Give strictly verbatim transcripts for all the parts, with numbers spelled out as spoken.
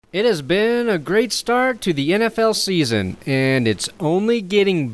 It has been a great start to the N F L season, and it's only getting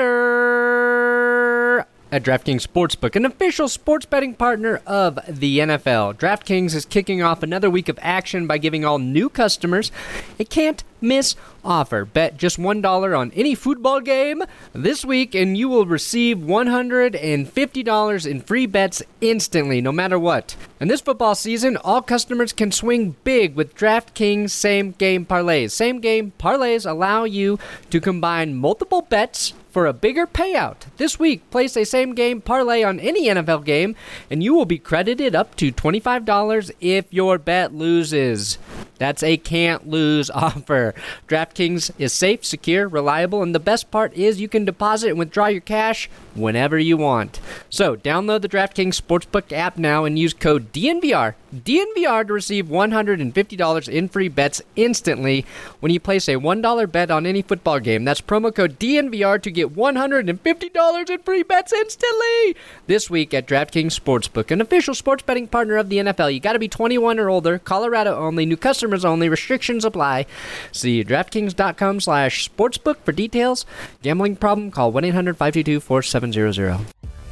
better at DraftKings Sportsbook, an official sports betting partner of the N F L. DraftKings is kicking off another week of action by giving all new customers a can't-miss offer. Bet just one dollar on any football game this week, and you will receive one hundred fifty dollars in free bets instantly, no matter what. And this football season, all customers can swing big with DraftKings same-game parlays. Same-game parlays allow you to combine multiple bets for a bigger payout. This week, place a same-game parlay on any N F L game, and you will be credited up to twenty-five dollars if your bet loses. That's a can't-lose offer. DraftKings is safe, secure, reliable, and the best part is you can deposit and withdraw your cash whenever you want. So, download the DraftKings Sportsbook app now and use code D N V R, D N V R to receive one hundred fifty dollars in free bets instantly when you place a one dollar bet on any football game. That's promo code D N V R to get one hundred fifty dollars in free bets instantly this week at DraftKings Sportsbook, an official sports betting partner of the N F L. You got to be twenty-one or older, Colorado only, new customers only, restrictions apply. See DraftKings.com slash sportsbook for details. Gambling problem? Call one eight hundred five two two four seven zero zero.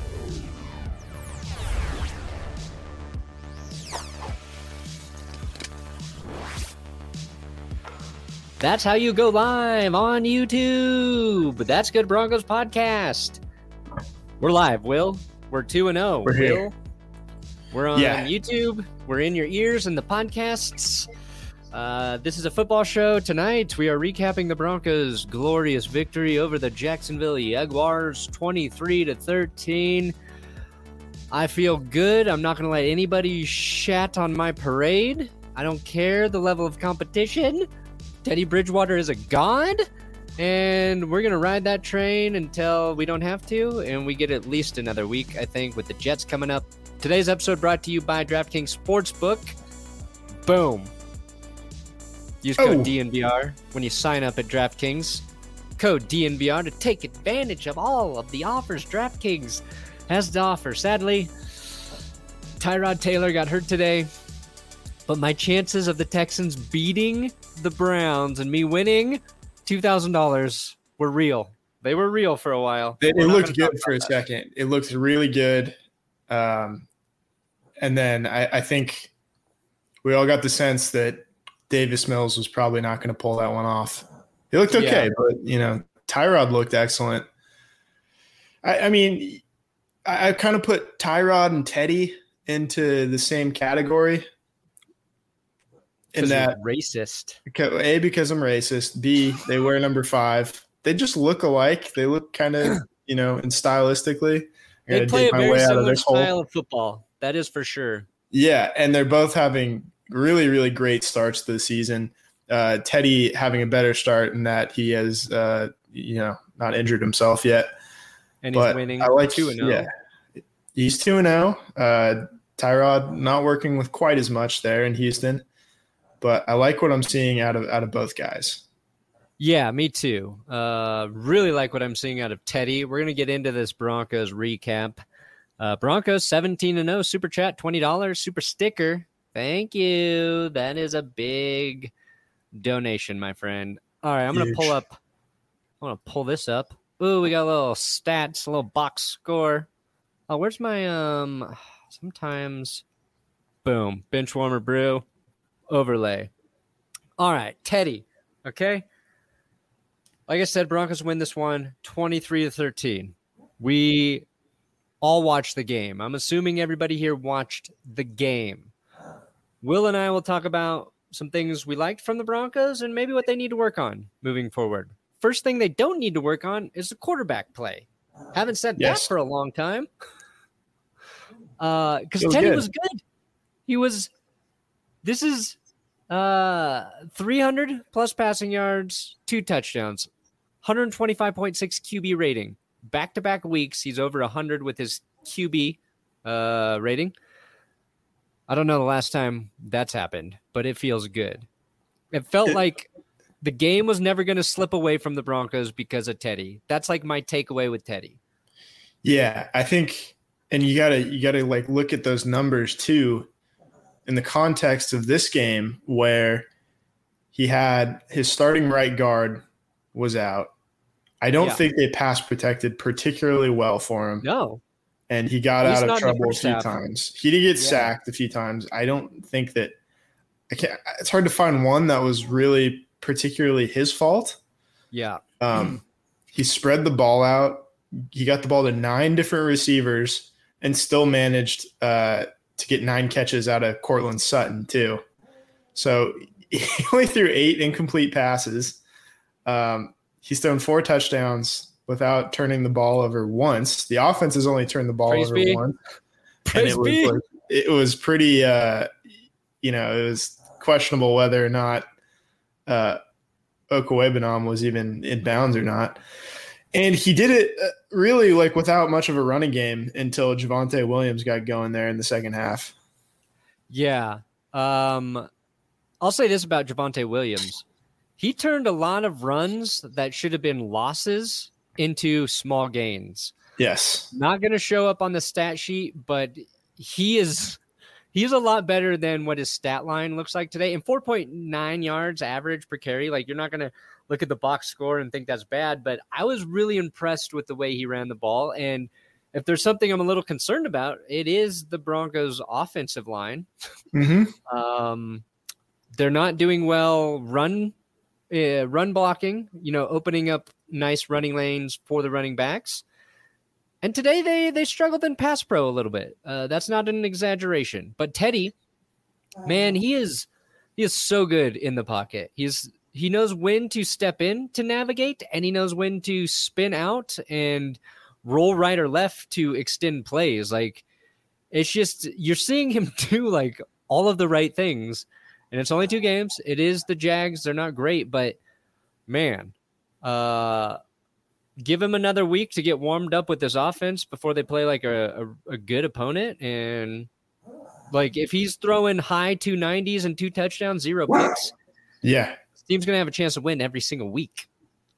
That's how you go live on YouTube. That's Good Broncos Podcast. We're live, Will. We're two and oh. We're Will. here. We're on Yeah. YouTube. We're in your ears and the podcasts. Uh, this is a football show. Tonight, we are recapping the Broncos' glorious victory over the Jacksonville Jaguars, twenty-three to thirteen. I feel good. I'm not going to let anybody shat on my parade. I don't care the level of competition. Teddy Bridgewater is a god, and we're going to ride that train until we don't have to, and we get at least another week, I think, with the Jets coming up. Today's episode brought to you by DraftKings Sportsbook. Boom. Use code Oh. D N V R when you sign up at DraftKings. Code D N V R to take advantage of all of the offers DraftKings has to offer. Sadly, Tyrod Taylor got hurt today, but my chances of the Texans beating the Browns and me winning two thousand dollars were real. They were real for a while. It, We're it not looked gonna good talk for a about that. second. It looked really good. Um, and then I, I think we all got the sense that Davis Mills was probably not going to pull that one off. It looked okay, Yeah. but, you know, Tyrod looked excellent. I, I mean, I, I kind of put Tyrod and Teddy into the same category. In 'Cause that, you're racist. A, because I'm racist. B, they wear number five. They just look alike. They look kind of, you know, and stylistically. I They gotta play dig a my very way out of similar this hole. style of football. That is for sure. Yeah, and they're both having really, really great starts to the season. Uh, Teddy having a better start in that he has, uh, you know, not injured himself yet. And he's But winning I like two and oh. Yeah, he's two and zero. Uh, Tyrod not working with quite as much there in Houston, but I like what I'm seeing out of out of both guys. Yeah, me too. Uh, really like what I'm seeing out of Teddy. We're going to get into this Broncos recap. Uh, Broncos seventeen and oh, Super Chat twenty dollars, Super Sticker. Thank you. That is a big donation, my friend. All right, I'm going to Huge. pull up. I'm going to pull this up. Ooh, we got a little stats, a little box score. Oh, where's my, um, sometimes, boom, bench warmer brew, overlay. All right, Teddy, okay? Like I said, Broncos win this one twenty-three to thirteen. We all watched the game. I'm assuming everybody here watched the game. Will and I will talk about some things we liked from the Broncos and maybe what they need to work on moving forward. First thing they don't need to work on is the quarterback play. Haven't said Yes. that for a long time. Uh, because It was Teddy good. was good. He was. This is uh three hundred plus passing yards, two touchdowns, one twenty-five point six Q B rating. Back-to-back weeks, he's over one hundred with his Q B uh, rating. I don't know the last time that's happened, but it feels good. It felt It- like the game was never going to slip away from the Broncos because of Teddy. That's like my takeaway with Teddy. Yeah, I think, and you gotta you gotta like look at those numbers too, in the context of this game where he had his starting right guard was out. I don't Yeah. think they pass protected particularly well for him. No. And he got He's out of not in the trouble a first few half. times. He did get Yeah. sacked a few times. I don't think that I can't, it's hard to find one that was really particularly his fault. Yeah. Um, he spread the ball out. He got the ball to nine different receivers and still managed uh, to get nine catches out of Cortland Sutton too. So he only threw eight incomplete passes. Um, he's thrown four touchdowns without turning the ball over once. The offense has only turned the ball Praise over be. once. Praise and it be. was, like, it was pretty, uh, you know, it was questionable whether or not uh, Okwebanam was even in bounds or not. And he did it really like without much of a running game until Javonte Williams got going there in the second half. Yeah. Um, I'll say this about Javonte Williams. He turned a lot of runs that should have been losses into small gains. Yes. Not going to show up on the stat sheet, but he is he's a lot better than what his stat line looks like today. And four point nine yards average per carry, like you're not going to look at the box score and think that's bad, but I was really impressed with the way he ran the ball. And if there's something I'm a little concerned about, it is the Broncos' offensive line. Mm-hmm. Um, they're not doing well run uh, run blocking, you know, opening up nice running lanes for the running backs. And today they they struggled in pass pro a little bit. Uh, that's not an exaggeration. But Teddy, man, he is he is so good in the pocket. He's he knows when to step in to navigate, and he knows when to spin out and roll right or left to extend plays. Like, it's just you're seeing him do like all of the right things. And it's only two games. It is the Jags. They're not great, but man, uh, give him another week to get warmed up with this offense before they play like a, a, a good opponent. And like if he's throwing high two nineties and two touchdowns, zero picks, yeah, this team's going to have a chance to win every single week.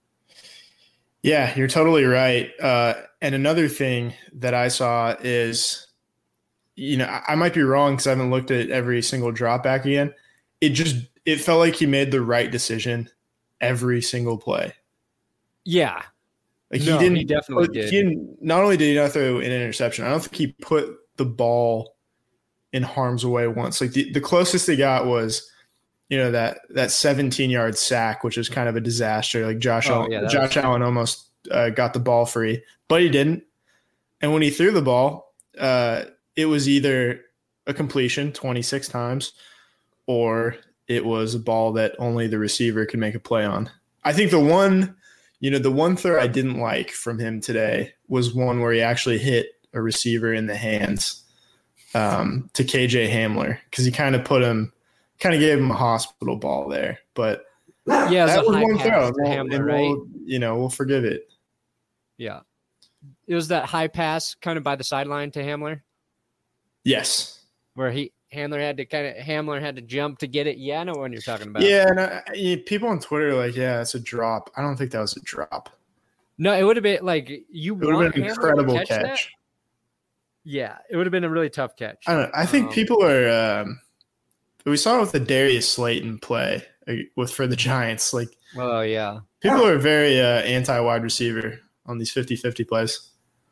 Yeah, you're totally right. Uh, and another thing that I saw is, you know, I, I might be wrong because I haven't looked at every single drop back again. It just it felt like he made the right decision every single play. Yeah. Like No, he didn't he definitely put, did. He didn't, not only did he not throw an interception, I don't think he put the ball in harm's way once. Like the, the closest they got was, you know, that that seventeen-yard sack, which is kind of a disaster. Like Josh, Oh, Allen, yeah, that Josh was- Allen almost uh, got the ball free, but he didn't. And when he threw the ball, uh, it was either a completion twenty-six times, or it was a ball that only the receiver could make a play on. I think the one, you know, the one throw I didn't like from him today was one where he actually hit a receiver in the hands um, to K J Hamler, because he kind of put him, kind of gave him a hospital ball there. But Yeah, it was that a was high one pass throw. to and we'll- Hamler, and right? we'll, you know, we'll forgive it. Yeah. It was that high pass kind of by the sideline to Hamler Yes. where he Hamler had to kind of Hamler had to jump to get it. Yeah, I know what you're talking about. Yeah, and I, I- people on Twitter are like, yeah, it's a drop. I don't think that was a drop. No, it would have been like you It would want have been Hamler an to incredible catch catch. that? Yeah, it would have been a really tough catch. I don't know. I think Um, people are. Um, we saw it with the Darius Slayton play uh, with for the Giants. Like Well, yeah. people are very uh, anti-wide receiver on these fifty-fifty plays.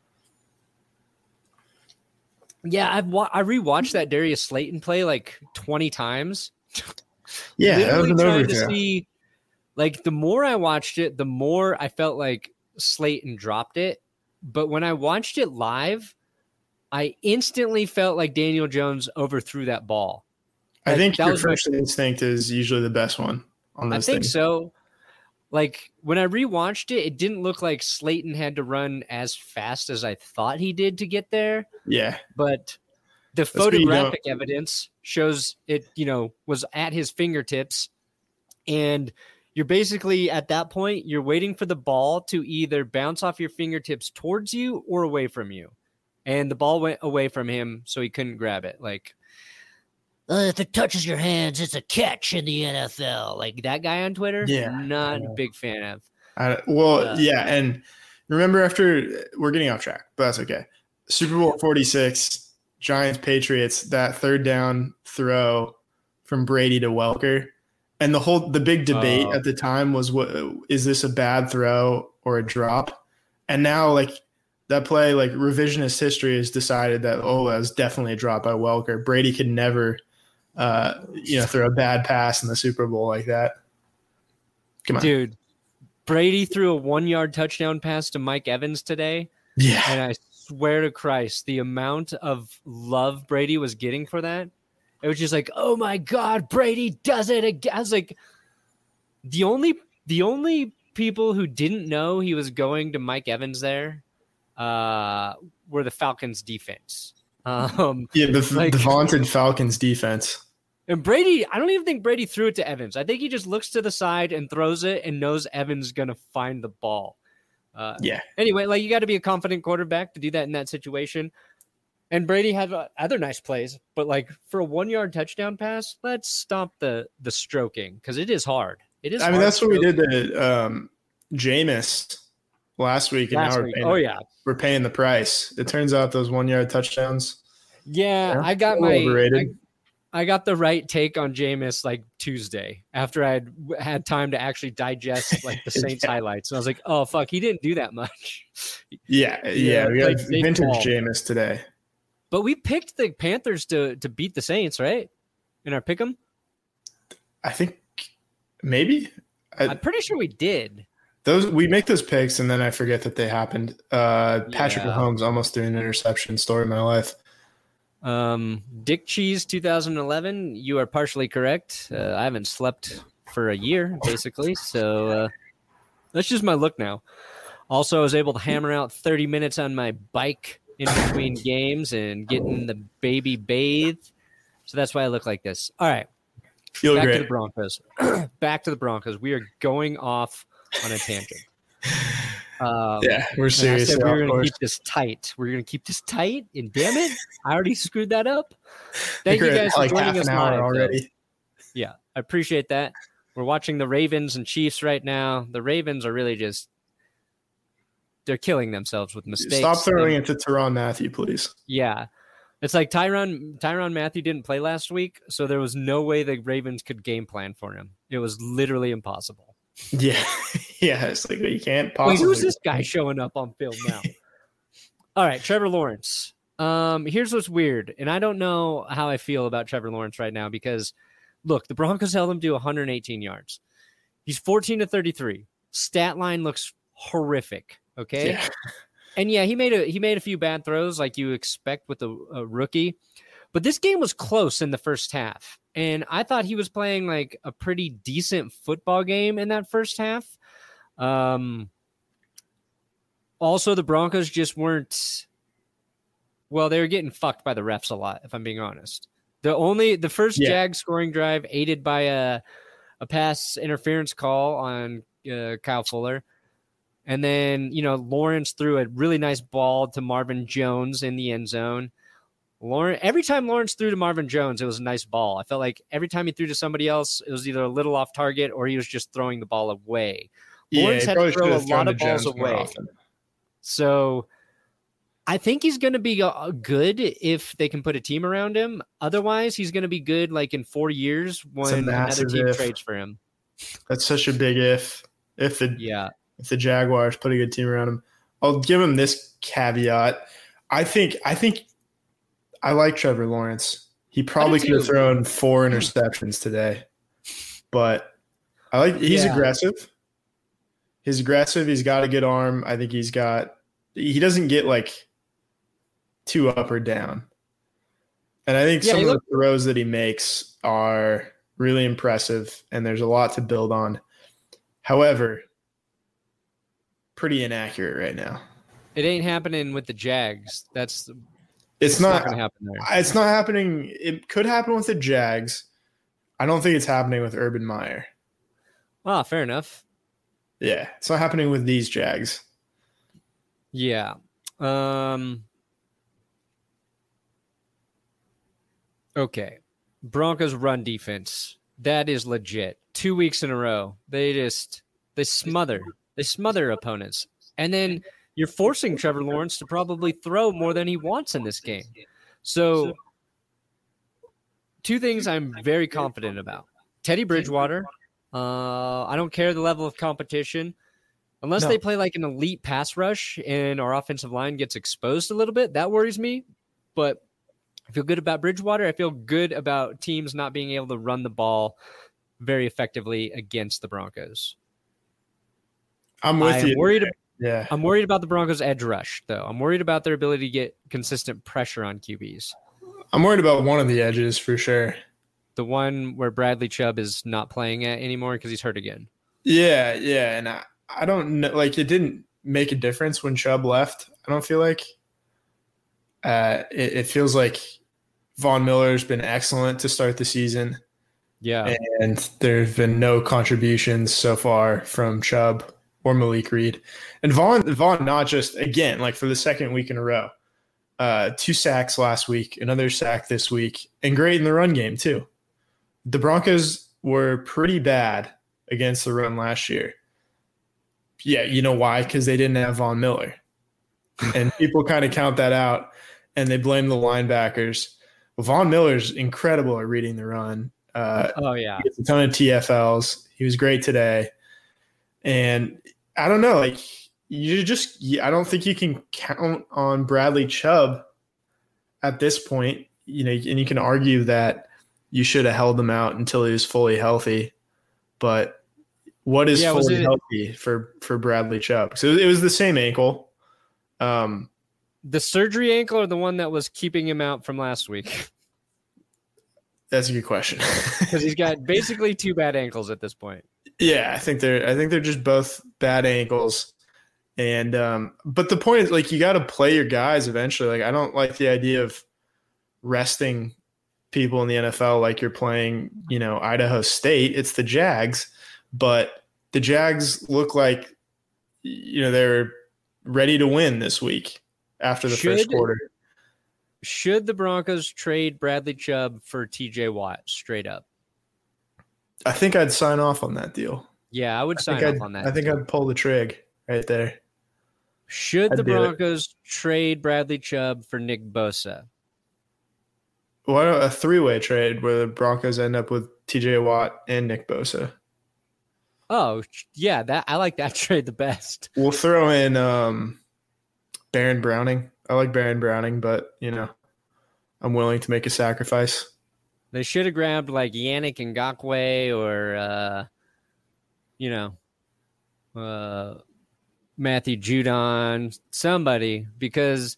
Yeah, I've wa- I rewatched that Darius Slayton play like twenty times. Yeah, that was Literally an trying to overthrow. see, like, the more I watched it, the more I felt like Slayton dropped it. But when I watched it live, I instantly felt like Daniel Jones overthrew that ball. I Like, think that your was my- first instinct is usually the best one on I those think things. so. Like when I rewatched it, it didn't look like Slayton had to run as fast as I thought he did to get there. Yeah, But the what you photographic evidence shows it, you know, was at his fingertips. And you're basically at that point, you're waiting for the ball to either bounce off your fingertips towards you or away from you. And the ball went away from him, so he couldn't grab it. Like, uh, if it touches your hands, it's a catch in the N F L. Like that guy on Twitter, Yeah, not yeah. a big fan of. I, well, Uh, yeah, and remember after we're getting off track, but that's okay. Super Bowl forty-six, Giants Patriots, that third down throw from Brady to Welker. And the whole the big debate Oh. at the time was, what is this, a bad throw or a drop? And now, like, that play, like, revisionist history has decided that, oh, that was definitely a drop by Welker. Brady could never, uh, you know, throw a bad pass in the Super Bowl like that. Come on, Dude. Brady threw a one-yard touchdown pass to Mike Evans today, yeah. and I swear to Christ, the amount of love Brady was getting for that, it was just like, oh my God, Brady does it again. I was like, the only the only people who didn't know he was going to Mike Evans there uh, were the Falcons defense. Um, Yeah, the, like- the vaunted Falcons defense. And Brady, I don't even think Brady threw it to Evans. I think he just looks to the side and throws it and knows Evans going to find the ball. Uh, Yeah. Anyway, like, you got to be a confident quarterback to do that in that situation. And Brady had uh, other nice plays, but like for a one-yard touchdown pass, let's stop the the stroking because it is hard. It is. I mean, hard that's what we stroking. did to um, Jameis last week, and Last now we're week. paying, Oh yeah, we're paying the price. It turns out those one-yard touchdowns, yeah. Yeah, I got a my. little overrated. I, I got the right take on Jameis like Tuesday after I had had time to actually digest like the Saints Yeah. highlights, and I was like, "Oh fuck, he didn't do that much." Yeah, yeah, Yeah, we played got safe vintage ball. Jameis today. But we picked the Panthers to to beat the Saints, right? In our pick'em, I think maybe I, I'm pretty sure we did. those we make those picks, and then I forget that they happened. Uh, Patrick Yeah. Mahomes almost threw an interception. Story of my life. Um, Dick Cheese two thousand eleven, you are partially correct. Uh, I haven't slept for a year, basically. So uh, that's just my look now. Also, I was able to hammer out thirty minutes on my bike in between games and getting the baby bathed. So that's why I look like this. All right, Feel back to the great. Broncos. Back to the Broncos. We are going off on a tangent. Um, Yeah, we're and I serious. said we of were going to course. keep this tight. We're going to keep this tight, and damn it, I already screwed that up. Thank you We're at, guys for like half joining us an hour live, though. already. Yeah, I appreciate that. We're watching the Ravens and Chiefs right now. The Ravens are really just they're killing themselves with mistakes. Stop throwing And- it to Teron Matthew, please. Yeah. It's like Tyron Tyron Matthew didn't play last week, so there was no way the Ravens could game plan for him. It was literally impossible. Yeah, yeah. It's like you can't Wait, possibly. who's this guy showing up on film now? All right, Trevor Lawrence. Um, here's what's weird, and I don't know how I feel about Trevor Lawrence right now because, look, the Broncos held him to one hundred eighteen yards. He's fourteen to thirty-three. Stat line looks horrific. Okay, Yeah. and yeah, he made a he made a few bad throws like you expect with a, a rookie, but this game was close in the first half, and I thought he was playing like a pretty decent football game in that first half. Um. Also, the Broncos just weren't. Well, they were getting fucked by the refs a lot, if I'm being honest. The only the first Yeah. Jag scoring drive aided by a a pass interference call on uh, Kyle Fuller. And then, you know, Lawrence threw a really nice ball to Marvin Jones in the end zone. Lawrence, every time Lawrence threw to Marvin Jones, it was a nice ball. I felt like every time he threw to somebody else, it was either a little off target or he was just throwing the ball away. Lawrence he had probably to throw should a have thrown lot to of balls Jones more away. often. So I think he's going to be uh, good if they can put a team around him. Otherwise, he's going to be good like in four years when another massive team if. trades for him. That's such a big if. If the Yeah. if the Jaguars put a good team around him, I'll give him this caveat. I think I think I like Trevor Lawrence. He probably could have too. thrown four interceptions today, but I like he's Yeah. aggressive. He's aggressive. He's got a good arm. I think he's got. He doesn't get like too up or down, and I think Yeah, some he of looked- the throws that he makes are really impressive, and there's a lot to build on. However, pretty inaccurate right now. It ain't happening with the Jags. That's It's it's not. going to happen there. It's not happening. It could happen with the Jags. I don't think it's happening with Urban Meyer. Ah, fair enough. Yeah, it's not happening with these Jags. Yeah. Um. Okay. Broncos run defense. That is legit. Two weeks in a row. They just they smother. They smother opponents. And then you're forcing Trevor Lawrence to probably throw more than he wants in this game. So two things I'm very confident about. Teddy Bridgewater. Uh, I don't care the level of competition. Unless No. they play like an elite pass rush and our offensive line gets exposed a little bit, that worries me. But I feel good about Bridgewater. I feel good about teams not being able to run the ball very effectively against the Broncos. I'm with I you. am worried. Yeah. I'm worried about the Broncos' edge rush, though. I'm worried about their ability to get consistent pressure on Q Bs. I'm worried about one of the edges for sure. The one where Bradley Chubb is not playing at anymore because he's hurt again. Yeah, yeah, and I, I don't know. Like, it didn't make a difference when Chubb left. I don't feel like. Uh, it, it feels like Von Miller's been excellent to start the season. Yeah, and there have been no contributions so far from Chubb or Malik Reed. And Vaughn, Vaughn, not just, again, like for the second week in a row, uh, two sacks last week, another sack this week, and great in the run game too. The Broncos were pretty bad against the run last year. Yeah, you know why? Because they didn't have Von Miller. And people kind of count that out, and they blame the linebackers. Well, Von Miller's incredible at reading the run. Uh, oh, yeah. He gets a ton of T F Ls. He was great today. And I don't know, like, you just, I don't think you can count on Bradley Chubb at this point, you know, and you can argue that you should have held him out until he was fully healthy. But what is Yeah, was fully it- healthy for, for Bradley Chubb? So it was the same ankle. Um, The surgery ankle or the one that was keeping him out from last week? that's a good question. Because he's got basically two bad ankles at this point. Yeah, I think they're I think they're just both bad ankles. And um but the point is, like, you got to play your guys eventually. Like, I don't like the idea of resting people in the N F L like you're playing, you know, Idaho State. It's the Jags, but the Jags look like, you know, they're ready to win this week after the Should- first quarter. Should the Broncos trade Bradley Chubb for T J Watt straight up? I think I'd sign off on that deal. Yeah, I would I sign think off I'd, on that. I think I'd pull the trig right there. Should I'd the do it. Broncos trade Bradley Chubb for Nick Bosa? Why don't a three-way trade where the Broncos end up with T J Watt and Nick Bosa? Oh, yeah, that I like that trade the best. We'll throw in um, Baron Browning. I like Baron Browning, but, you know, I'm willing to make a sacrifice. They should have grabbed like Yannick Ngakoue or, uh, you know, uh, Matthew Judon, somebody, because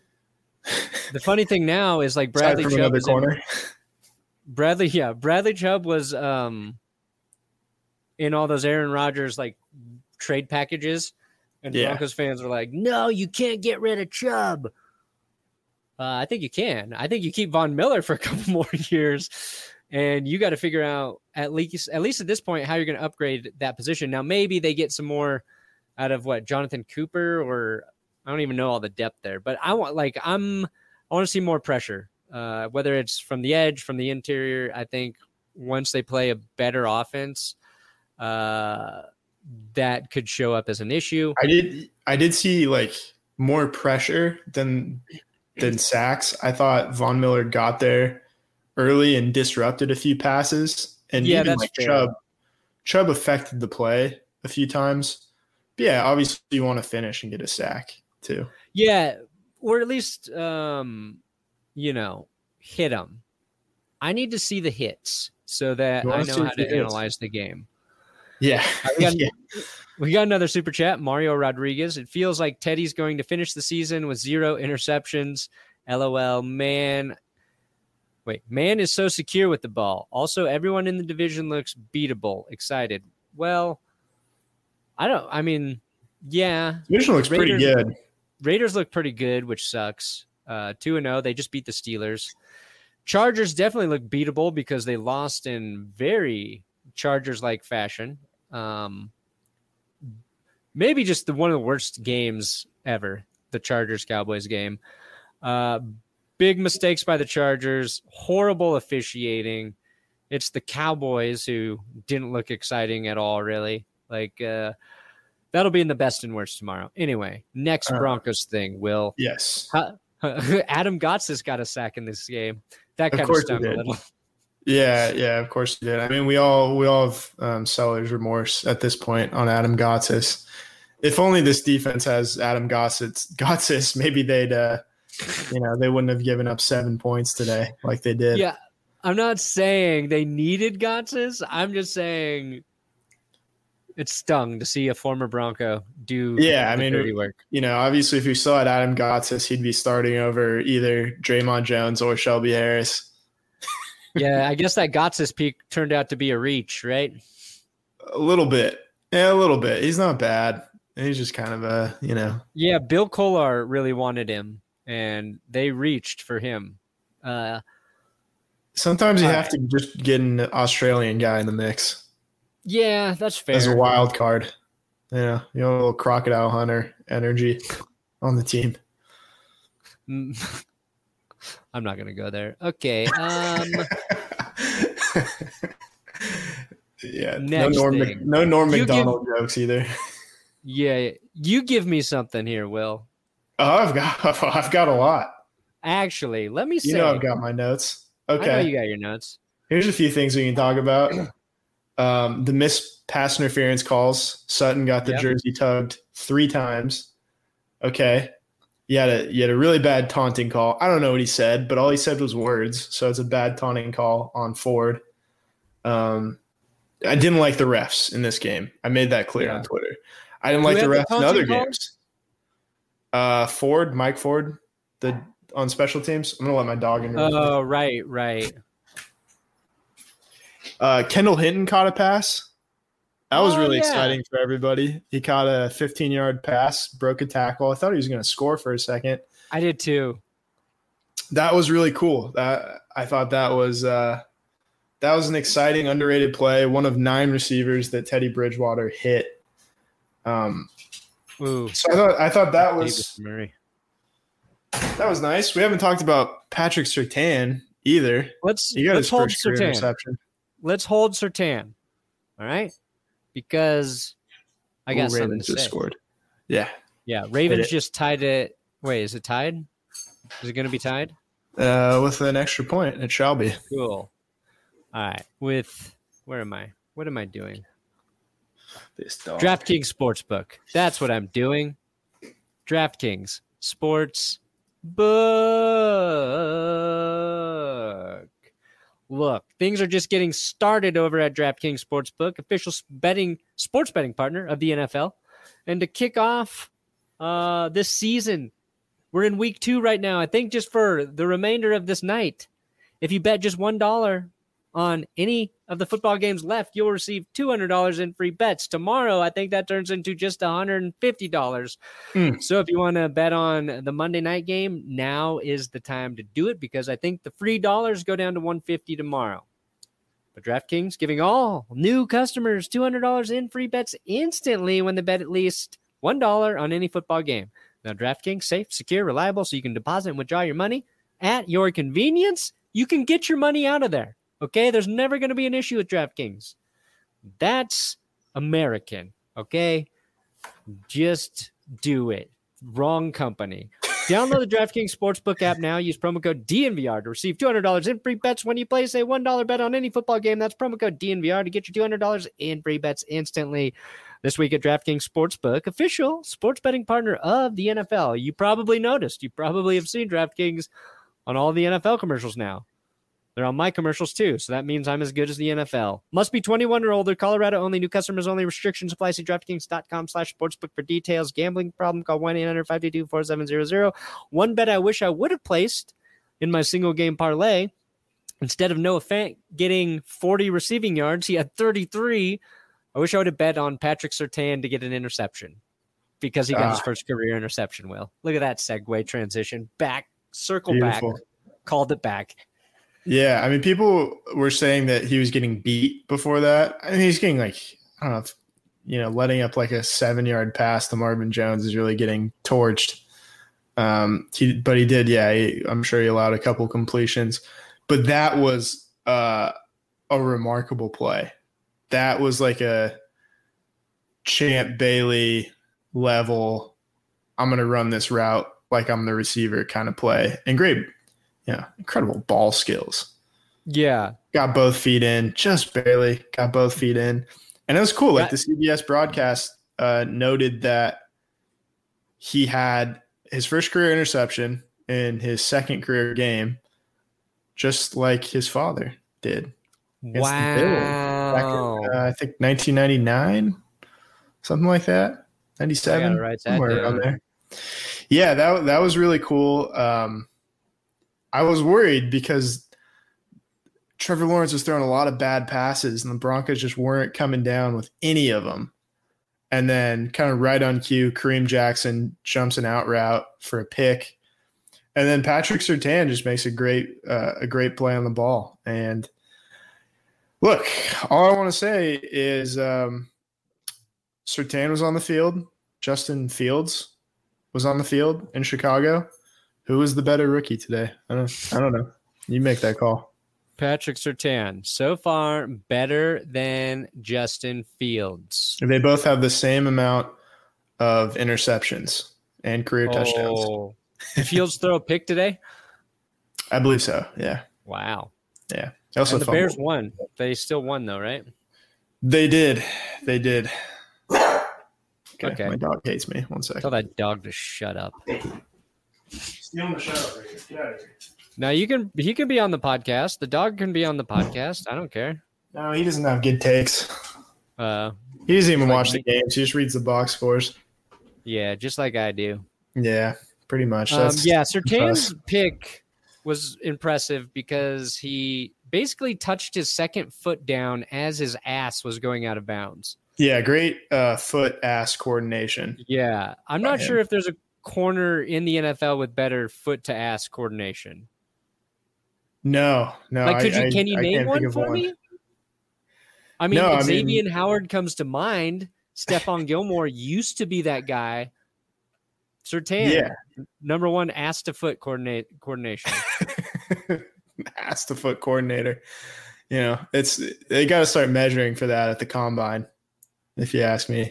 the funny thing now is like Bradley Aside from Chubb another is in- corner. Bradley, yeah, Bradley Chubb was um, in all those Aaron Rodgers like trade packages, and Yeah. Broncos fans were like, "No, you can't get rid of Chubb." Uh, I think you can. I think you keep Von Miller for a couple more years, and you got to figure out at least at least at this point how you're going to upgrade that position. Now, maybe they get some more out of what Jonathan Cooper, or I don't even know all the depth there, but I want like I'm I want to see more pressure. Uh, whether it's from the edge, from the interior, I think once they play a better offense, uh, that could show up as an issue. I did I did see like more pressure than than sacks. I thought Von Miller got there early and disrupted a few passes. And Yeah, even that's like fair. Chubb Chubb affected the play a few times. But yeah, obviously you want to finish and get a sack too. Yeah, or at least, um, you know, hit them. I need to see the hits so that You I wanna know see how a few to hits. analyze the game. Yeah. We got, Yeah. we got another super chat, Mario Rodriguez. It feels like Teddy's going to finish the season with zero interceptions. LOL, man. Wait, man is so secure with the ball. Also, everyone in the division looks beatable. Excited. Well, I don't, I mean, yeah. Division looks pretty Raiders- good. Raiders look pretty good, which sucks. Uh, two and oh, they just beat the Steelers. Chargers definitely look beatable because they lost in very Chargers-like fashion. Um, maybe just the one of the worst games ever, the Chargers-Cowboys game. Uh, big mistakes by the Chargers, horrible officiating. It's the Cowboys who didn't look exciting at all, really. Like, uh, that'll be in the best and worst tomorrow. Anyway, next Uh, Broncos thing, Will. Yes. Huh? Adam Gotsis got a sack in this game. That Of kind of course he stung a did. little. Yeah, yeah, of course you did. I mean, we all we all have um, seller's remorse at this point on Adam Gotsis. If only this defense has Adam Gotsis, Gotsis, maybe they'd, uh, you know, they wouldn't have given up seven points today like they did. Yeah, I'm not saying they needed Gotsis. I'm just saying it stung to see a former Bronco do Yeah, I the mean, dirty work. You know, obviously, if we still had Adam Gotsis, he'd be starting over either Draymond Jones or Shelby Harris. Yeah, I guess that Gotsis peak turned out to be a reach, right? A little bit. Yeah, a little bit. He's not bad. He's just kind of a, you know. Yeah, Bill Kollar really wanted him, and they reached for him. Uh, Sometimes you have to just get an Australian guy in the mix. Yeah, that's fair. As a wild card. Yeah, you know, a little crocodile hunter energy on the team. I'm not going to go there. Okay. Um, yeah, no Norm, thing. no Norm Macdonald give, jokes either. Yeah, you give me something here, Will. Oh, I've got, I've got a lot. Actually, let me say. You know, I've got my notes. Okay, I know you got your notes. Here's a few things we can talk about. Um, the missed pass interference calls. Sutton got the yep. jersey tugged three times. Okay. You had a you had a really bad taunting call. I don't know what he said, but all he said was words. So it's a bad taunting call on Ford. Um, I didn't like the refs in this game. I made that clear yeah. on Twitter. I didn't like the refs the in other calls? games. Uh, Ford, Mike Ford, the on special teams. I'm gonna let my dog in here. Oh, right, right. Uh, Kendall Hinton caught a pass. That was oh, really yeah. exciting for everybody. He caught a fifteen-yard pass, broke a tackle. I thought he was going to score for a second. I did too. That was really cool. That I thought that was uh, that was an exciting, underrated play. One of nine receivers that Teddy Bridgewater hit. Um, Ooh. So I thought I thought that was Murray. That was nice. We haven't talked about Patrick Surtain either. Let's he got let's his hold first career Surtain. interception. Let's hold Surtain. All right. Because I got Ooh, something Ravens to just say. scored. Yeah. Yeah. Ravens just tied it. Wait, is it tied? Is it going to be tied? Uh, with an extra point, it shall be. Cool. All right. With, where am I? What am I doing? This dog. DraftKings Sportsbook. That's what I'm doing. DraftKings Sports Book. Look, things are just getting started over at DraftKings Sportsbook, official betting sports betting partner of the N F L. And to kick off uh, this season, we're in week two right now. I think just for the remainder of this night, if you bet just one dollar on any of the football games left, you'll receive two hundred dollars in free bets. Tomorrow, I think that turns into just one hundred fifty dollars. Mm. So if you want to bet on the Monday night game, now is the time to do it because I think the free dollars go down to one hundred fifty dollars tomorrow. But DraftKings giving all new customers two hundred dollars in free bets instantly when they bet at least one dollar on any football game. Now, DraftKings, safe, secure, reliable, so you can deposit and withdraw your money at your convenience. You can get your money out of there. Okay, there's never going to be an issue with DraftKings. That's American, okay? Just do it. Wrong company. Download the DraftKings Sportsbook app now. Use promo code D N V R to receive two hundred dollars in free bets when you place a one dollar bet on any football game. That's promo code D N V R to get your two hundred dollars in free bets instantly. This week at DraftKings Sportsbook, official sports betting partner of the N F L. You probably noticed. You probably have seen DraftKings on all the N F L commercials now. They're on my commercials too, so that means I'm as good as the N F L. Must be twenty-one or older. Colorado only. New customers only. Restrictions apply. See DraftKings.com slash sportsbook for details. Gambling problem? Call one eight hundred five two two four seven zero zero. One bet I wish I would have placed in my single game parlay. Instead of Noah Fant getting forty receiving yards, he had thirty-three. I wish I would have bet on Patrick Surtain to get an interception because he got ah. his first career interception, Will. Look at that segue transition. Back, circle Beautiful. back, called it back. Yeah, I mean, people were saying that he was getting beat before that. I mean, he's getting like, I don't know, if, you know, letting up like a seven-yard pass to Marvin Jones is really getting torched. Um, he, but he did, yeah, he, I'm sure he allowed a couple completions. But that was uh, a remarkable play. That was like a Champ Bailey level, I'm going to run this route like I'm the receiver kind of play. And great. Yeah, incredible ball skills. Yeah, got both feet in, just barely got both feet in. And it was cool. Like the C B S broadcast uh, noted that he had his first career interception in his second career game, just like his father did. Wow. Back in, uh, I think nineteen ninety-nine, something like that. ninety-seven, right somewhere around there. Yeah, that, that was really cool. Um, I was worried because Trevor Lawrence was throwing a lot of bad passes, and the Broncos just weren't coming down with any of them. And then kind of right on cue, Kareem Jackson jumps an out route for a pick. And then Patrick Surtain just makes a great uh, a great play on the ball. And look, all I want to say is um, Surtain was on the field. Justin Fields was on the field in Chicago. Who was the better rookie today? I don't, I don't know. You make that call. Patrick Surtain, so far better than Justin Fields. They both have the same amount of interceptions and career oh. touchdowns. Did Fields throw a pick today? I believe so, yeah. Wow. Yeah. Also and the Bears won. They still won, though, right? They did. They did. Okay. okay. My dog hates me. One second. Tell that dog to shut up. Stealing the shut up, Ricky. Get out of here. Now you can he can be on the podcast. The dog can be on the podcast. I don't care. No, he doesn't have good takes. Uh, he doesn't even like watch me. the games. He just reads the box scores. Yeah, just like I do. Yeah, pretty much. Um, That's yeah, Surtain's pick was impressive because he basically touched his second foot down as his ass was going out of bounds. Yeah, great uh, foot ass coordination. Yeah, I'm not him. sure if there's a corner in the N F L with better foot to ass coordination. No, no. Like, could I, you can you I, name I one for one. me? I mean, no, I Xavier mean, Howard comes to mind. Stephon Gilmore used to be that guy. Surtain, yeah. number one ass to foot coordinate coordination. Ass to foot coordinator. You know, it's they got to start measuring for that at the combine, if you ask me.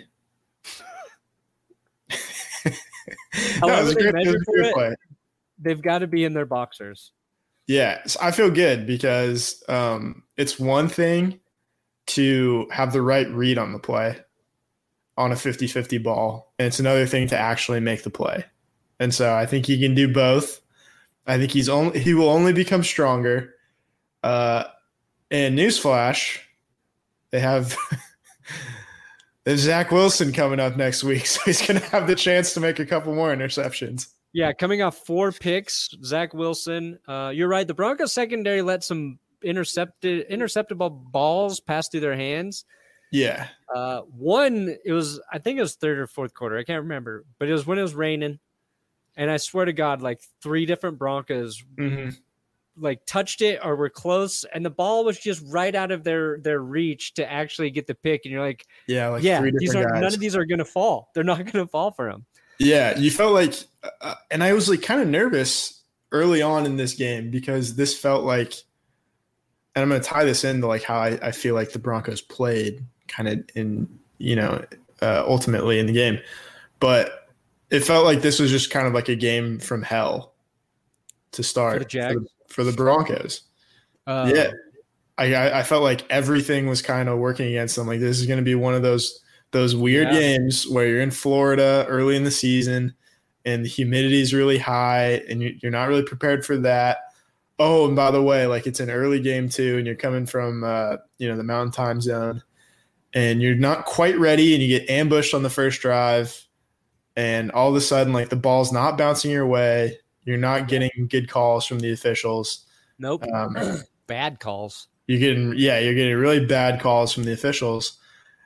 no, it was a they great, measure it was a for great it, play. They've got to be in their boxers. Yeah, so I feel good because um, it's one thing to have the right read on the play on a fifty-fifty ball, and it's another thing to actually make the play. And so I think he can do both. I think he's only he will only become stronger. Uh, and newsflash, they have there's Zach Wilson coming up next week, so he's going to have the chance to make a couple more interceptions. Yeah, coming off four picks, Zach Wilson. Uh, you're right. The Broncos secondary let some intercepted, interceptable balls pass through their hands. Yeah. Uh, one, it was, I think it was third or fourth quarter. I can't remember, but it was when it was raining. And I swear to God, like three different Broncos Mm-hmm. like touched it or were close, and the ball was just right out of their their reach to actually get the pick. And you're like, Yeah, like yeah, three these different are guys. none of these are going to fall. They're not going to fall for him. Yeah, you felt like, uh, and I was like kind of nervous early on in this game because this felt like, and I'm going to tie this into like how I, I feel like the Broncos played kind of in, you know, uh, ultimately in the game. But it felt like this was just kind of like a game from hell to start For the Jags? for the, for the Broncos. Uh, yeah. I, I I felt like everything was kind of working against them. Like this is going to be one of those those weird Yeah. games where you're in Florida early in the season and the humidity is really high and you- you're not really prepared for that. Oh, and by the way, like it's an early game too, and you're coming from uh, you know the Mountain Time Zone, and you're not quite ready, and you get ambushed on the first drive, and all of a sudden, like the ball's not bouncing your way. You're not getting good calls from the officials. Nope. Um, Bad calls. You're getting, yeah, you're getting really bad calls from the officials.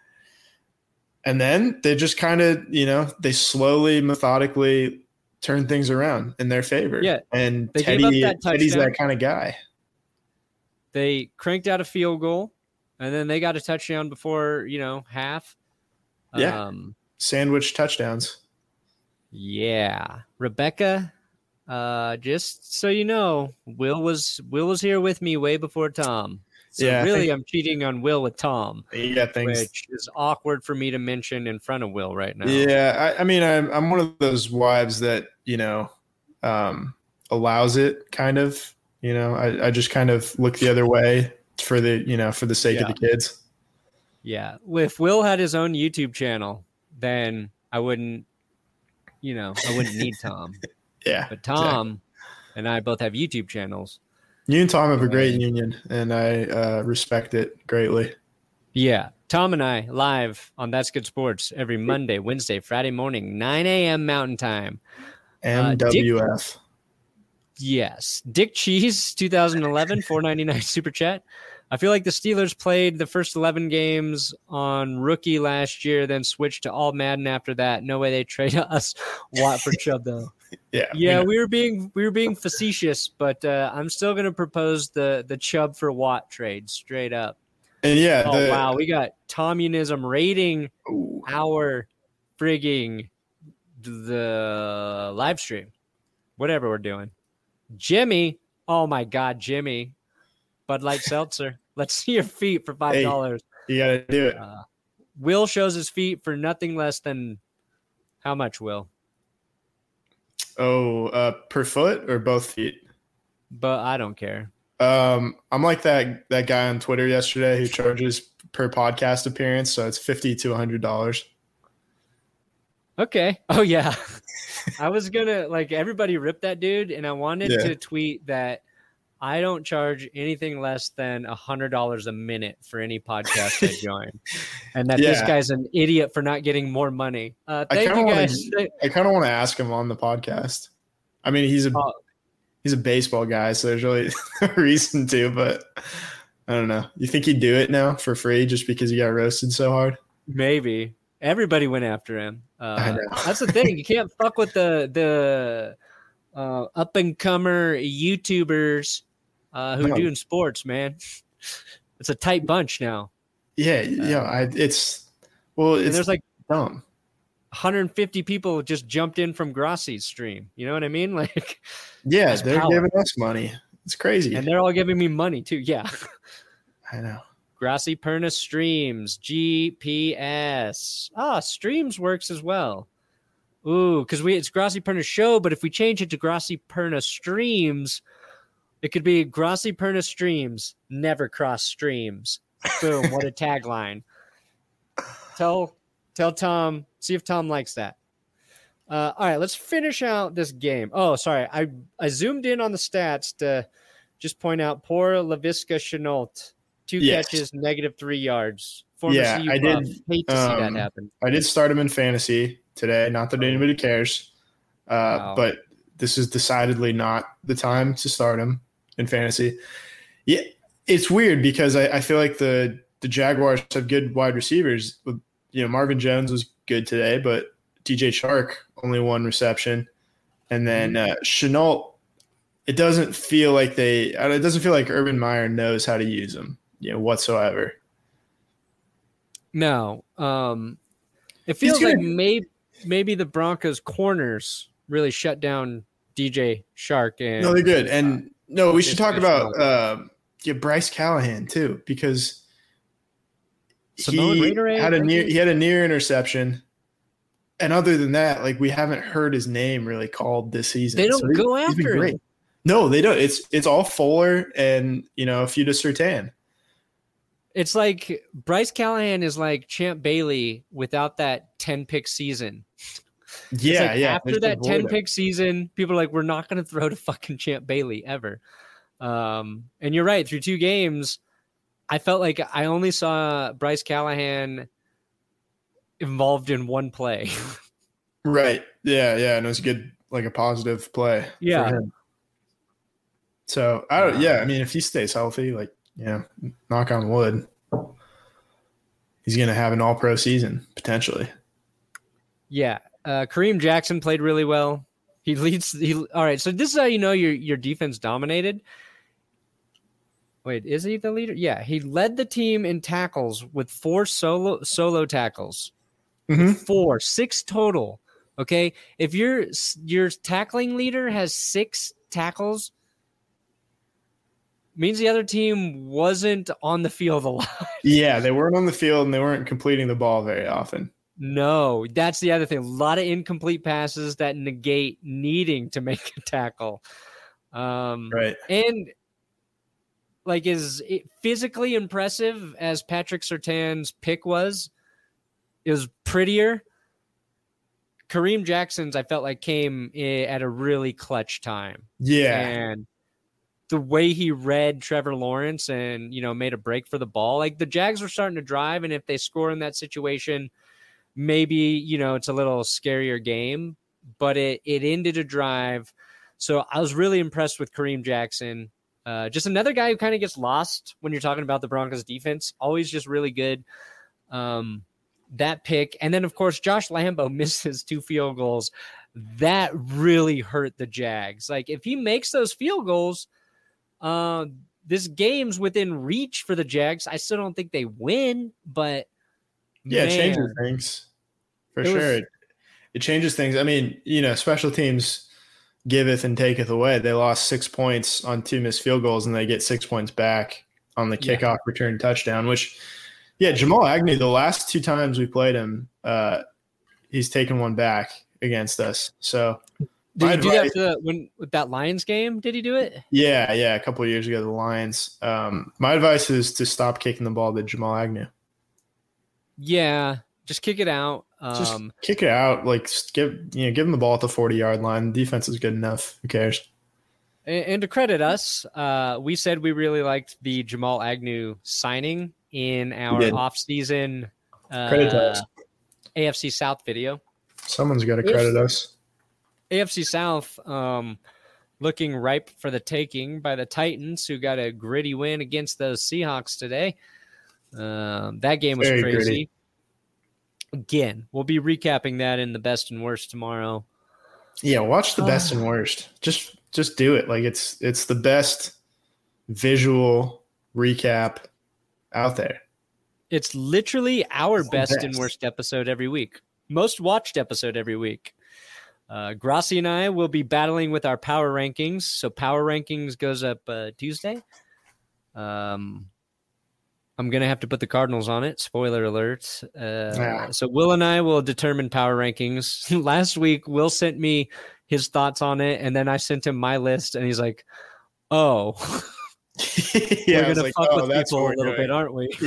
And then they just kind of, you know, they slowly, methodically turn things around in their favor. Yeah, And they gave up Teddy, that Teddy's touchdown. that kind of guy. They cranked out a field goal, and then they got a touchdown before, you know, half. Yeah. Um, Sandwich touchdowns. yeah. Rebecca, uh, just so you know, Will was Will was here with me way before Tom. So Yeah, I really, think- I'm cheating on Will with Tom, You got things. which is awkward for me to mention in front of Will right now. Yeah. I, I mean, I'm, I'm one of those wives that, you know, um, allows it kind of, you know, I, I just kind of look the other way for the you know for the sake Yeah. of the kids. Yeah. If Will had his own YouTube channel, then I wouldn't, you know, I wouldn't need Tom. Yeah, But Tom exactly. and I both have YouTube channels. You and Tom have a great And- union, and I uh, respect it greatly. Yeah. Tom and I live on That's Good Sports every Monday, Wednesday, Friday morning, nine a.m. Mountain Time. M W F. Dick, yes. Dick Cheese, twenty eleven, four ninety-nine super chat. I feel like the Steelers played the first eleven games on rookie last year, then switched to all Madden after that. No way they trade us Watt for Chubb, though. Yeah, Yeah, we, we were being we were being facetious, but uh, I'm still going to propose the the Chubb for Watt trade straight up. and yeah. Oh, the, wow. We got Tommunism rating Ooh. our frigging the live stream, whatever we're doing. Jimmy, oh my God, Jimmy, Bud Light Seltzer. Let's see your feet for five dollars. Hey, you got to do it. Uh, Will shows his feet for nothing less than how much, Will? Oh, uh, per foot or both feet? But I don't care. Um, I'm like that that guy on Twitter yesterday who charges per podcast appearance, so it's fifty to a hundred dollars. Okay. Oh yeah. I was gonna like everybody ripped that dude, and I wanted Yeah. to tweet that I don't charge anything less than a hundred dollars a minute for any podcast I join, and that this Yeah. guy's an idiot for not getting more money. Uh, I thank kinda you wanna- guys. I kind of want to ask him on the podcast. I mean, he's a Uh, he's a baseball guy, so there's really no reason to. But I don't know. You think he'd do it now for free just because he got roasted so hard? Maybe everybody went after him. Uh, I know. That's the thing. You can't fuck with the the uh, up and comer YouTubers uh, who No. are doing sports. Man, it's a tight bunch now. Yeah, yeah. I, it's well, And it's there's like dumb. one hundred fifty people just jumped in from Grassi's stream. You know what I mean? Like, Yeah, That's they're power. giving us money. It's crazy. and they're all giving me money too. Yeah. I know. Grassy Perna streams, G P S. Ah, streams works as well. Ooh, because we it's Grassy Perna show, but if we change it to Grassy Perna streams, it could be Grassy Perna streams, never cross streams. Boom, what a tagline. Tell tell Tom, see if Tom likes that. Uh, all right, let's finish out this game. Oh, sorry. I, I zoomed in on the stats to just point out poor Laviska Chenault. Two Yes. catches, negative three yards. Former Yeah, C U I Buff. did, Hate to see um, that happen. I did start him in fantasy today. Not that anybody cares, uh, Wow. but this is decidedly not the time to start him in fantasy. Yeah, it's weird because I, I feel like the the Jaguars have good wide receivers. You know, Marvin Jones was good today, but D J Chark only one reception, and then uh, Chenault. It doesn't feel like they. It doesn't feel like Urban Meyer knows how to use him, you know, whatsoever. No. Um, it feels gonna- like maybe maybe the Broncos corners really shut down D J Shark. And No, they're good. And no, we should Yes, talk yes, about no. uh, yeah, Bryce Callahan too, because Samoan he Raider, had a thank near you. he had a near interception. And other than that, like we haven't heard his name really called this season. They don't he- go he's been after him. great. No, they don't. It's it's all Fuller and you know a few to Surtain. It's like Bryce Callahan is like Champ Bailey without that ten pick season. It's Yeah, like yeah. After just that avoid ten him. pick season, people are like, we're not going to throw to fucking Champ Bailey ever. Um, and you're right. Through two games, I felt like I only saw Bryce Callahan involved in one play. Right. Yeah, yeah. And it was a good, like a positive play. for Yeah. him. So I don't. Yeah, I mean, if he stays healthy, like yeah, knock on wood, he's gonna have an All Pro season potentially. Yeah. Uh, Kareem Jackson played really well. He leads. He all right. So this is how you know your your defense dominated. Wait, is he the leader? Yeah, he led the team in tackles with four solo solo tackles. Mhm. Four, six total. Okay, if your your tackling leader has six tackles, means the other team wasn't on the field a lot. Yeah, they weren't on the field and they weren't completing the ball very often. No, that's the other thing. A lot of incomplete passes that negate needing to make a tackle. Um, Right. And like as physically impressive as Patrick Surtain's pick was, it was prettier. Kareem Jackson's, I felt like, came at a really clutch time. Yeah. And the way he read Trevor Lawrence and, you know, made a break for the ball, like the Jags were starting to drive. And if they score in that situation, maybe, you know, it's a little scarier game, but it, it ended a drive. So I was really impressed with Kareem Jackson. Uh, just another guy who kind of gets lost when you're talking about the Broncos defense. Always just really good. Um, that pick. And then, of course, Josh Lambo misses two field goals. That really hurt the Jags. Like, if he makes those field goals, uh, this game's within reach for the Jags. I still don't think they win, but yeah, man, it changes things for it sure. was- it, it changes things. I mean, you know, special teams giveth and taketh away. They lost six points on two missed field goals, and they get six points back on the Yeah. kickoff return touchdown, which, yeah, Jamal Agnew, the last two times we played him, uh, he's taken one back against us. So, Did my he do that advice- for the, when, with that Lions game? Did he do it? yeah, yeah, a couple of years ago, the Lions. Um, my advice is to stop kicking the ball to Jamal Agnew. Yeah, just kick it out. Just Um, kick it out. Like, just give you know, give him the ball at the forty yard line. The defense is good enough. Who cares? and, and to credit us, uh, we said we really liked the Jamal Agnew signing in our did. offseason Credit to uh, us. A F C South video. Someone's got to If- credit us. A F C South um, looking ripe for the taking by the Titans, who got a gritty win against those Seahawks today. Um, that game was Very crazy. gritty. Again, we'll be recapping that in the best and worst tomorrow. Yeah, watch the best and worst. Just just do it. Like it's it's the best visual recap out there. It's literally our It's the best and best. worst episode every week. Most watched episode every week. Uh, Grassi and I will be battling with our power rankings. So power rankings goes up uh, Tuesday. Um, I'm going to have to put the Cardinals on it. Spoiler alert. Uh, Ah. So Will and I will determine power rankings. Last week, Will sent me his thoughts on it, and then I sent him my list, and he's like, oh, yeah, we're I was going to like, fuck oh, with that's people what a we're little doing. bit, aren't we?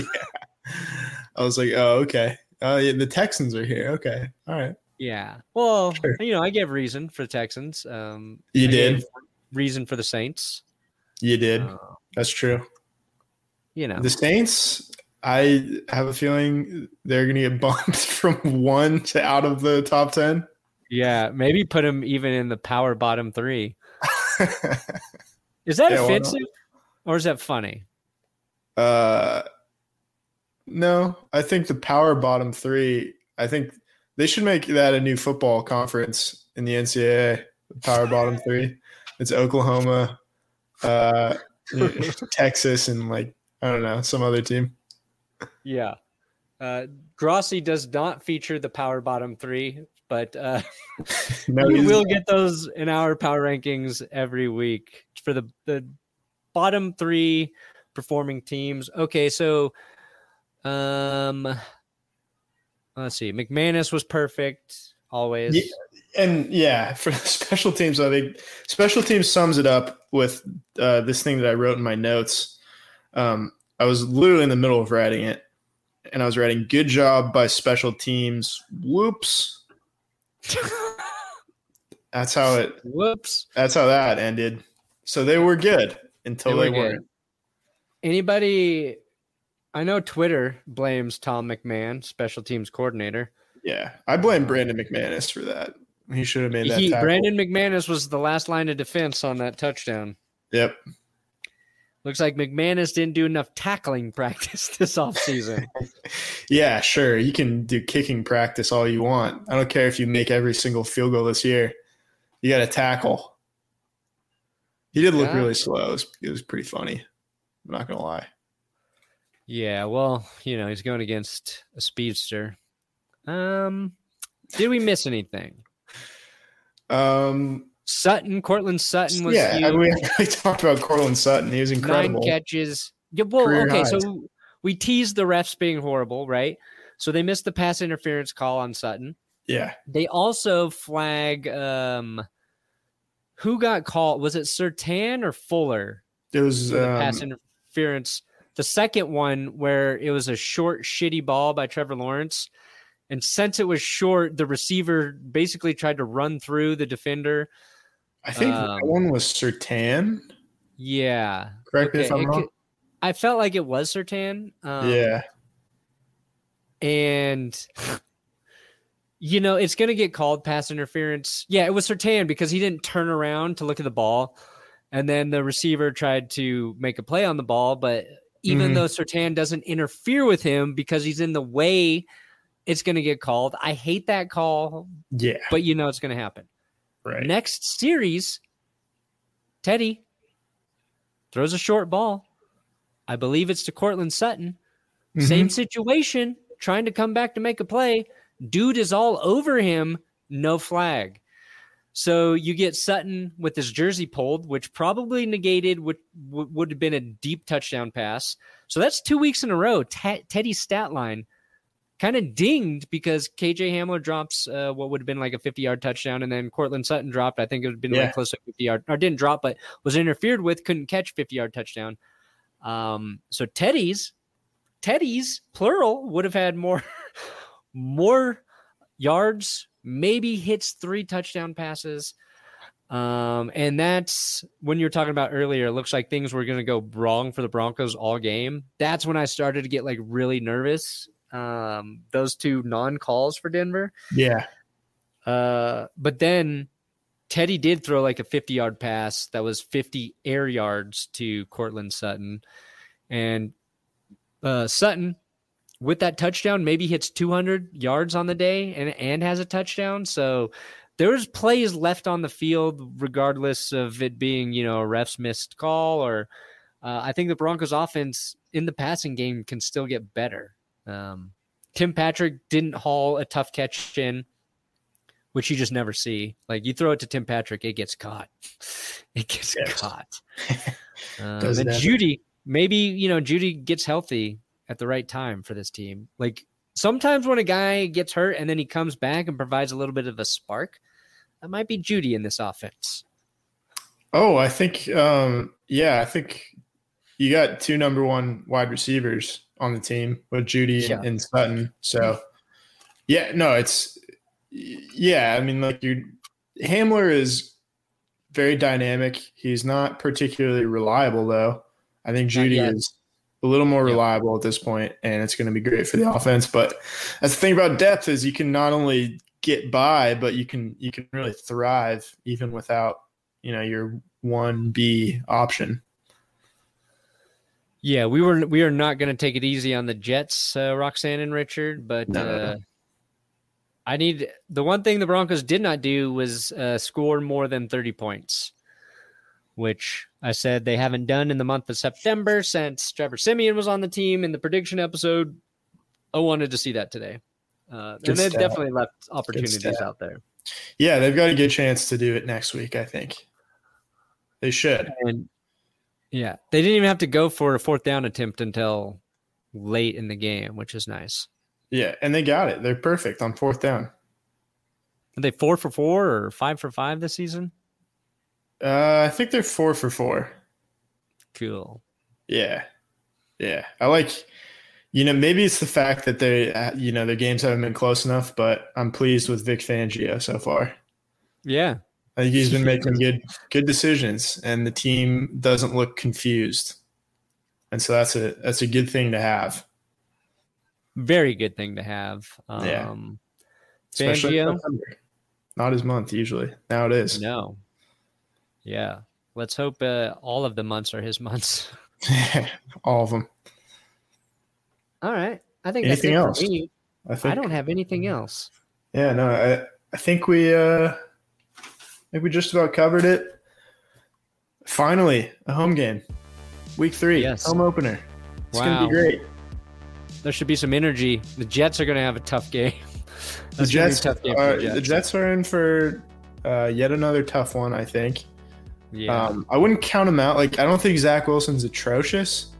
I was like, oh, okay. Uh, yeah, the Texans are here. Okay, all right. Yeah. Well, Sure. you know, I gave reason for the Texans. Um, You I did. gave reason for the Saints. You did. Uh, That's true. you know, The Saints, I have a feeling they're going to get bumped from one to out of the top ten. yeah, maybe put him even in the power bottom three. Is that Yeah, why not? offensive or is that funny? uh, no, I think the power bottom three, I think they should make that a new football conference in the N C double A. The power bottom three. It's Oklahoma, uh, Texas, and like, I don't know, some other team. Yeah. Uh, Grossi does not feature the power bottom three, but uh, No, we he's- will get those in our power rankings every week for the, the bottom three performing teams. Okay, so um, let's see. McManus was perfect always. Yeah, and yeah, for the special teams, I think special teams sums it up with uh, this thing that I wrote in my notes. Um, I was literally in the middle of writing it, and I was writing "Good job by special teams." Whoops. That's how it. Whoops. That's how that ended. So they were good until They they, were good. weren't. Anybody? I know Twitter blames Tom McMahon, special teams coordinator. Yeah, I blame Brandon McManus for that. He should have made that. He, tackle. Brandon McManus was the last line of defense on that touchdown. Yep. Looks like McManus didn't do enough tackling practice this offseason. Yeah, sure. You can do kicking practice all you want. I don't care if you make every single field goal this year. You got to tackle. He did look Yeah. really slow. It was, it was pretty funny. I'm not going to lie. Yeah, well, you know, he's going against a speedster. Um, did we miss anything? Um, Sutton, Cortland Sutton was yeah, huge. I mean, we haven't really talked about Cortland Sutton. He was incredible. Nine catches. Yeah, well, Career okay, highs. so we teased the refs being horrible, right? So they missed the pass interference call on Sutton. Yeah. They also flag um, who got called? Was it Sertan or Fuller? It was For the pass um, inter- interference. The second one where it was a short, shitty ball by Trevor Lawrence. And since it was short, the receiver basically tried to run through the defender. I think um, that one was Surtain. Yeah. Correct me if I'm wrong. Could, I felt like it was Surtain. Um, yeah. And, you know, it's going to get called pass interference. Yeah, it was Surtain because he didn't turn around to look at the ball. And then the receiver tried to make a play on the ball. But even mm-hmm. though Surtain doesn't interfere with him because he's in the way, it's going to get called. I hate that call. Yeah. But you know it's going to happen. Right. Next series, Teddy throws a short ball. I believe it's to Courtland Sutton. Mm-hmm. Same situation, trying to come back to make a play. Dude is all over him, no flag. So you get Sutton with his jersey pulled, which probably negated what would have been a deep touchdown pass. So that's two weeks in a row. T- Teddy's stat line kind of dinged because K J Hamler drops uh, what would have been like a fifty-yard touchdown, and then Courtland Sutton dropped. I think it would have been yeah. like close to fifty-yard, or didn't drop, but was interfered with, couldn't catch fifty-yard touchdown. Um, so Teddy's, Teddy's, plural, would have had more, more yards, maybe hits three touchdown passes. Um, and that's when you were talking about earlier, it looks like things were going to go wrong for the Broncos all game. That's when I started to get like really nervous. Um, those two non-calls for Denver. Yeah. Uh, but then Teddy did throw like a fifty-yard pass that was fifty air yards to Courtland Sutton. And uh, Sutton, with that touchdown, maybe hits two hundred yards on the day and, and has a touchdown. So there was plays left on the field, regardless of it being, you know, a ref's missed call or uh, I think the Broncos offense in the passing game can still get better. Um, Tim Patrick didn't haul a tough catch in, which you just never see. Like you throw it to Tim Patrick, it gets caught. It gets yes. caught. um, and ever. Judy, maybe, you know, Judy gets healthy at the right time for this team. Like sometimes when a guy gets hurt and then he comes back and provides a little bit of a spark, that might be Judy in this offense. Oh, I think, um, yeah, I think you got two number one wide receivers on the team with Judy yeah. and, and Sutton. So, yeah, no, it's yeah. I mean, like you, Hamler is very dynamic. He's not particularly reliable, though. I think Judy is a little more yeah. reliable at this point, and it's going to be great for the offense. But that's the thing about depth is you can not only get by, but you can you can really thrive even without, you know, your one B option. Yeah, we were we are not going to take it easy on the Jets, uh, Roxanne and Richard, but no. uh, I need the one thing the Broncos did not do was uh, score more than thirty points, which I said they haven't done in the month of September since Trevor Siemian was on the team in the prediction episode. I wanted to see that today, uh, and they've stat. definitely left opportunities out there. Yeah, they've got a good chance to do it next week. I think they should. And yeah, they didn't even have to go for a fourth down attempt until late in the game, which is nice. Yeah, and they got it. They're perfect on fourth down. Are they four for four or five for five this season? Uh, I think they're four for four. Cool. Yeah, yeah. I like, you know, maybe it's the fact that they, uh, you know, their games haven't been close enough, but I'm pleased with Vic Fangio so far. Yeah. I think he's been making good good decisions, and the team doesn't look confused, and so that's a that's a good thing to have. Very good thing to have. Um, yeah, especially Fangio, not his month usually. Now it is. No. Yeah, let's hope uh, all of the months are his months. All of them. All right, I think anything that's it else? For me. I think I don't have anything else. Yeah, no, I I think we. Uh, I think we just about covered it. Finally, a home game. Week three, yes. home opener. It's wow. going to be great. There should be some energy. The Jets are going to have a tough game. The Jets, tough game are, the Jets. the Jets are in for uh, yet another tough one, I think. Yeah. Um, I wouldn't count him out. Like, I don't think Zach Wilson's atrocious.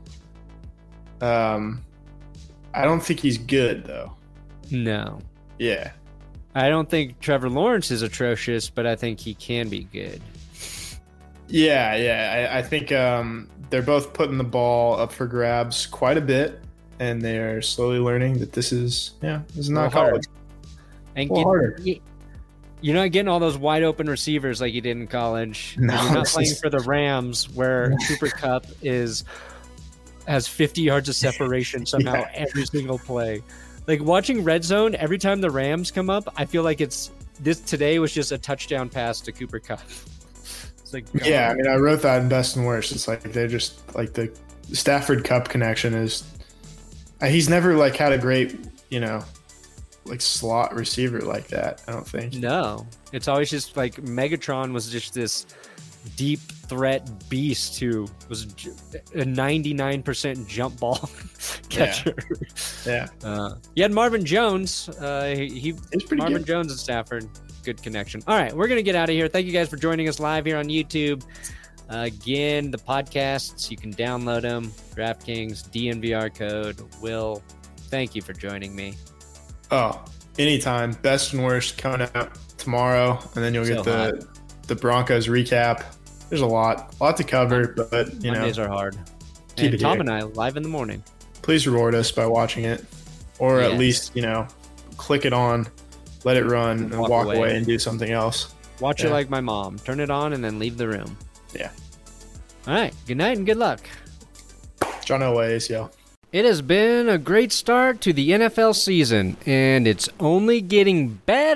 Um, I don't think he's good, though. No. Yeah. I don't think Trevor Lawrence is atrocious, but I think he can be good. Yeah, yeah. I, I think um, they're both putting the ball up for grabs quite a bit, and they're slowly learning that this is, yeah, this is not college. And a little harder. get, you're not getting all those wide open receivers like you did in college. No, you're not this playing is- for the Rams where Cooper Kupp is has fifty yards of separation somehow Yeah. every single play. Like watching Red Zone, every time the Rams come up, I feel like it's this today was just a touchdown pass to Cooper Kupp. It's like Yeah, I God. mean, I wrote that in Best and Worst. It's like they're just like the Stafford Cup connection is. uh, He's never like had a great, you know, like slot receiver like that. I don't think. No, it's always just like Megatron was just this deep threat beast who was j- a ninety-nine percent jump ball catcher. Yeah, Uh, you had Marvin Jones. Uh, he, he it's pretty Marvin good. Jones and Stafford. Good connection. All right, we're gonna get out of here. Thank you guys for joining us live here on YouTube. Uh, again, the podcasts you can download them. DraftKings D N V R code. Will, thank you for joining me. Oh, anytime. Best and Worst coming out tomorrow, and then you'll So get the the Broncos recap. There's a lot, a lot to cover, but you know, Mondays are hard. keep And it Tom here. and I live in the morning. Please reward us by watching it, or Yes. at least you know, click it on, let it run, and Walk walk, away. away. and do something else. Watch it Yeah. like my mom. Turn it on and then leave the room. Yeah. All right. Good night and good luck. John Elway, yo. It has been a great start to the N F L season, and it's only getting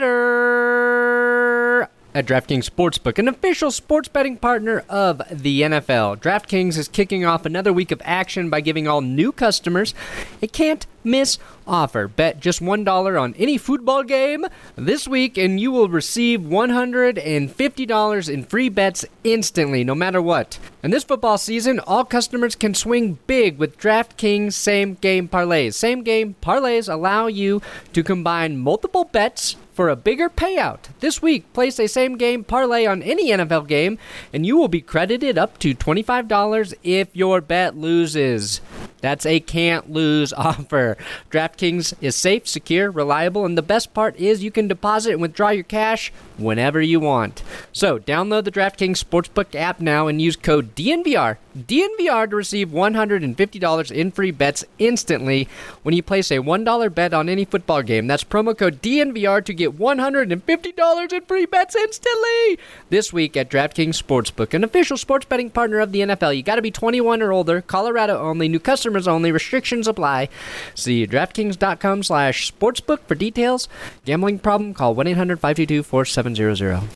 better at DraftKings Sportsbook, an official sports betting partner of the N F L. DraftKings is kicking off another week of action by giving all new customers a can't-miss offer. Bet just one dollar on any football game this week, and you will receive one hundred fifty dollars in free bets instantly, no matter what. And this football season, all customers can swing big with DraftKings same-game parlays. Same-game parlays allow you to combine multiple bets for a bigger payout. This week, place a same-game parlay on any N F L game, and you will be credited up to twenty-five dollars if your bet loses. That's a can't-lose offer. DraftKings is safe, secure, reliable, and the best part is you can deposit and withdraw your cash whenever you want. So, download the DraftKings Sportsbook app now and use code D N V R, D N V R to receive one hundred fifty dollars in free bets instantly when you place a one dollar bet on any football game. That's promo code D N V R to get one hundred fifty dollars in free bets instantly this week at DraftKings Sportsbook, an official sports betting partner of the N F L. You got to be twenty-one or older, Colorado only, new customers only, restrictions apply. See DraftKings.com slash sportsbook for details. Gambling problem? Call one eight hundred five two two four seven zero zero.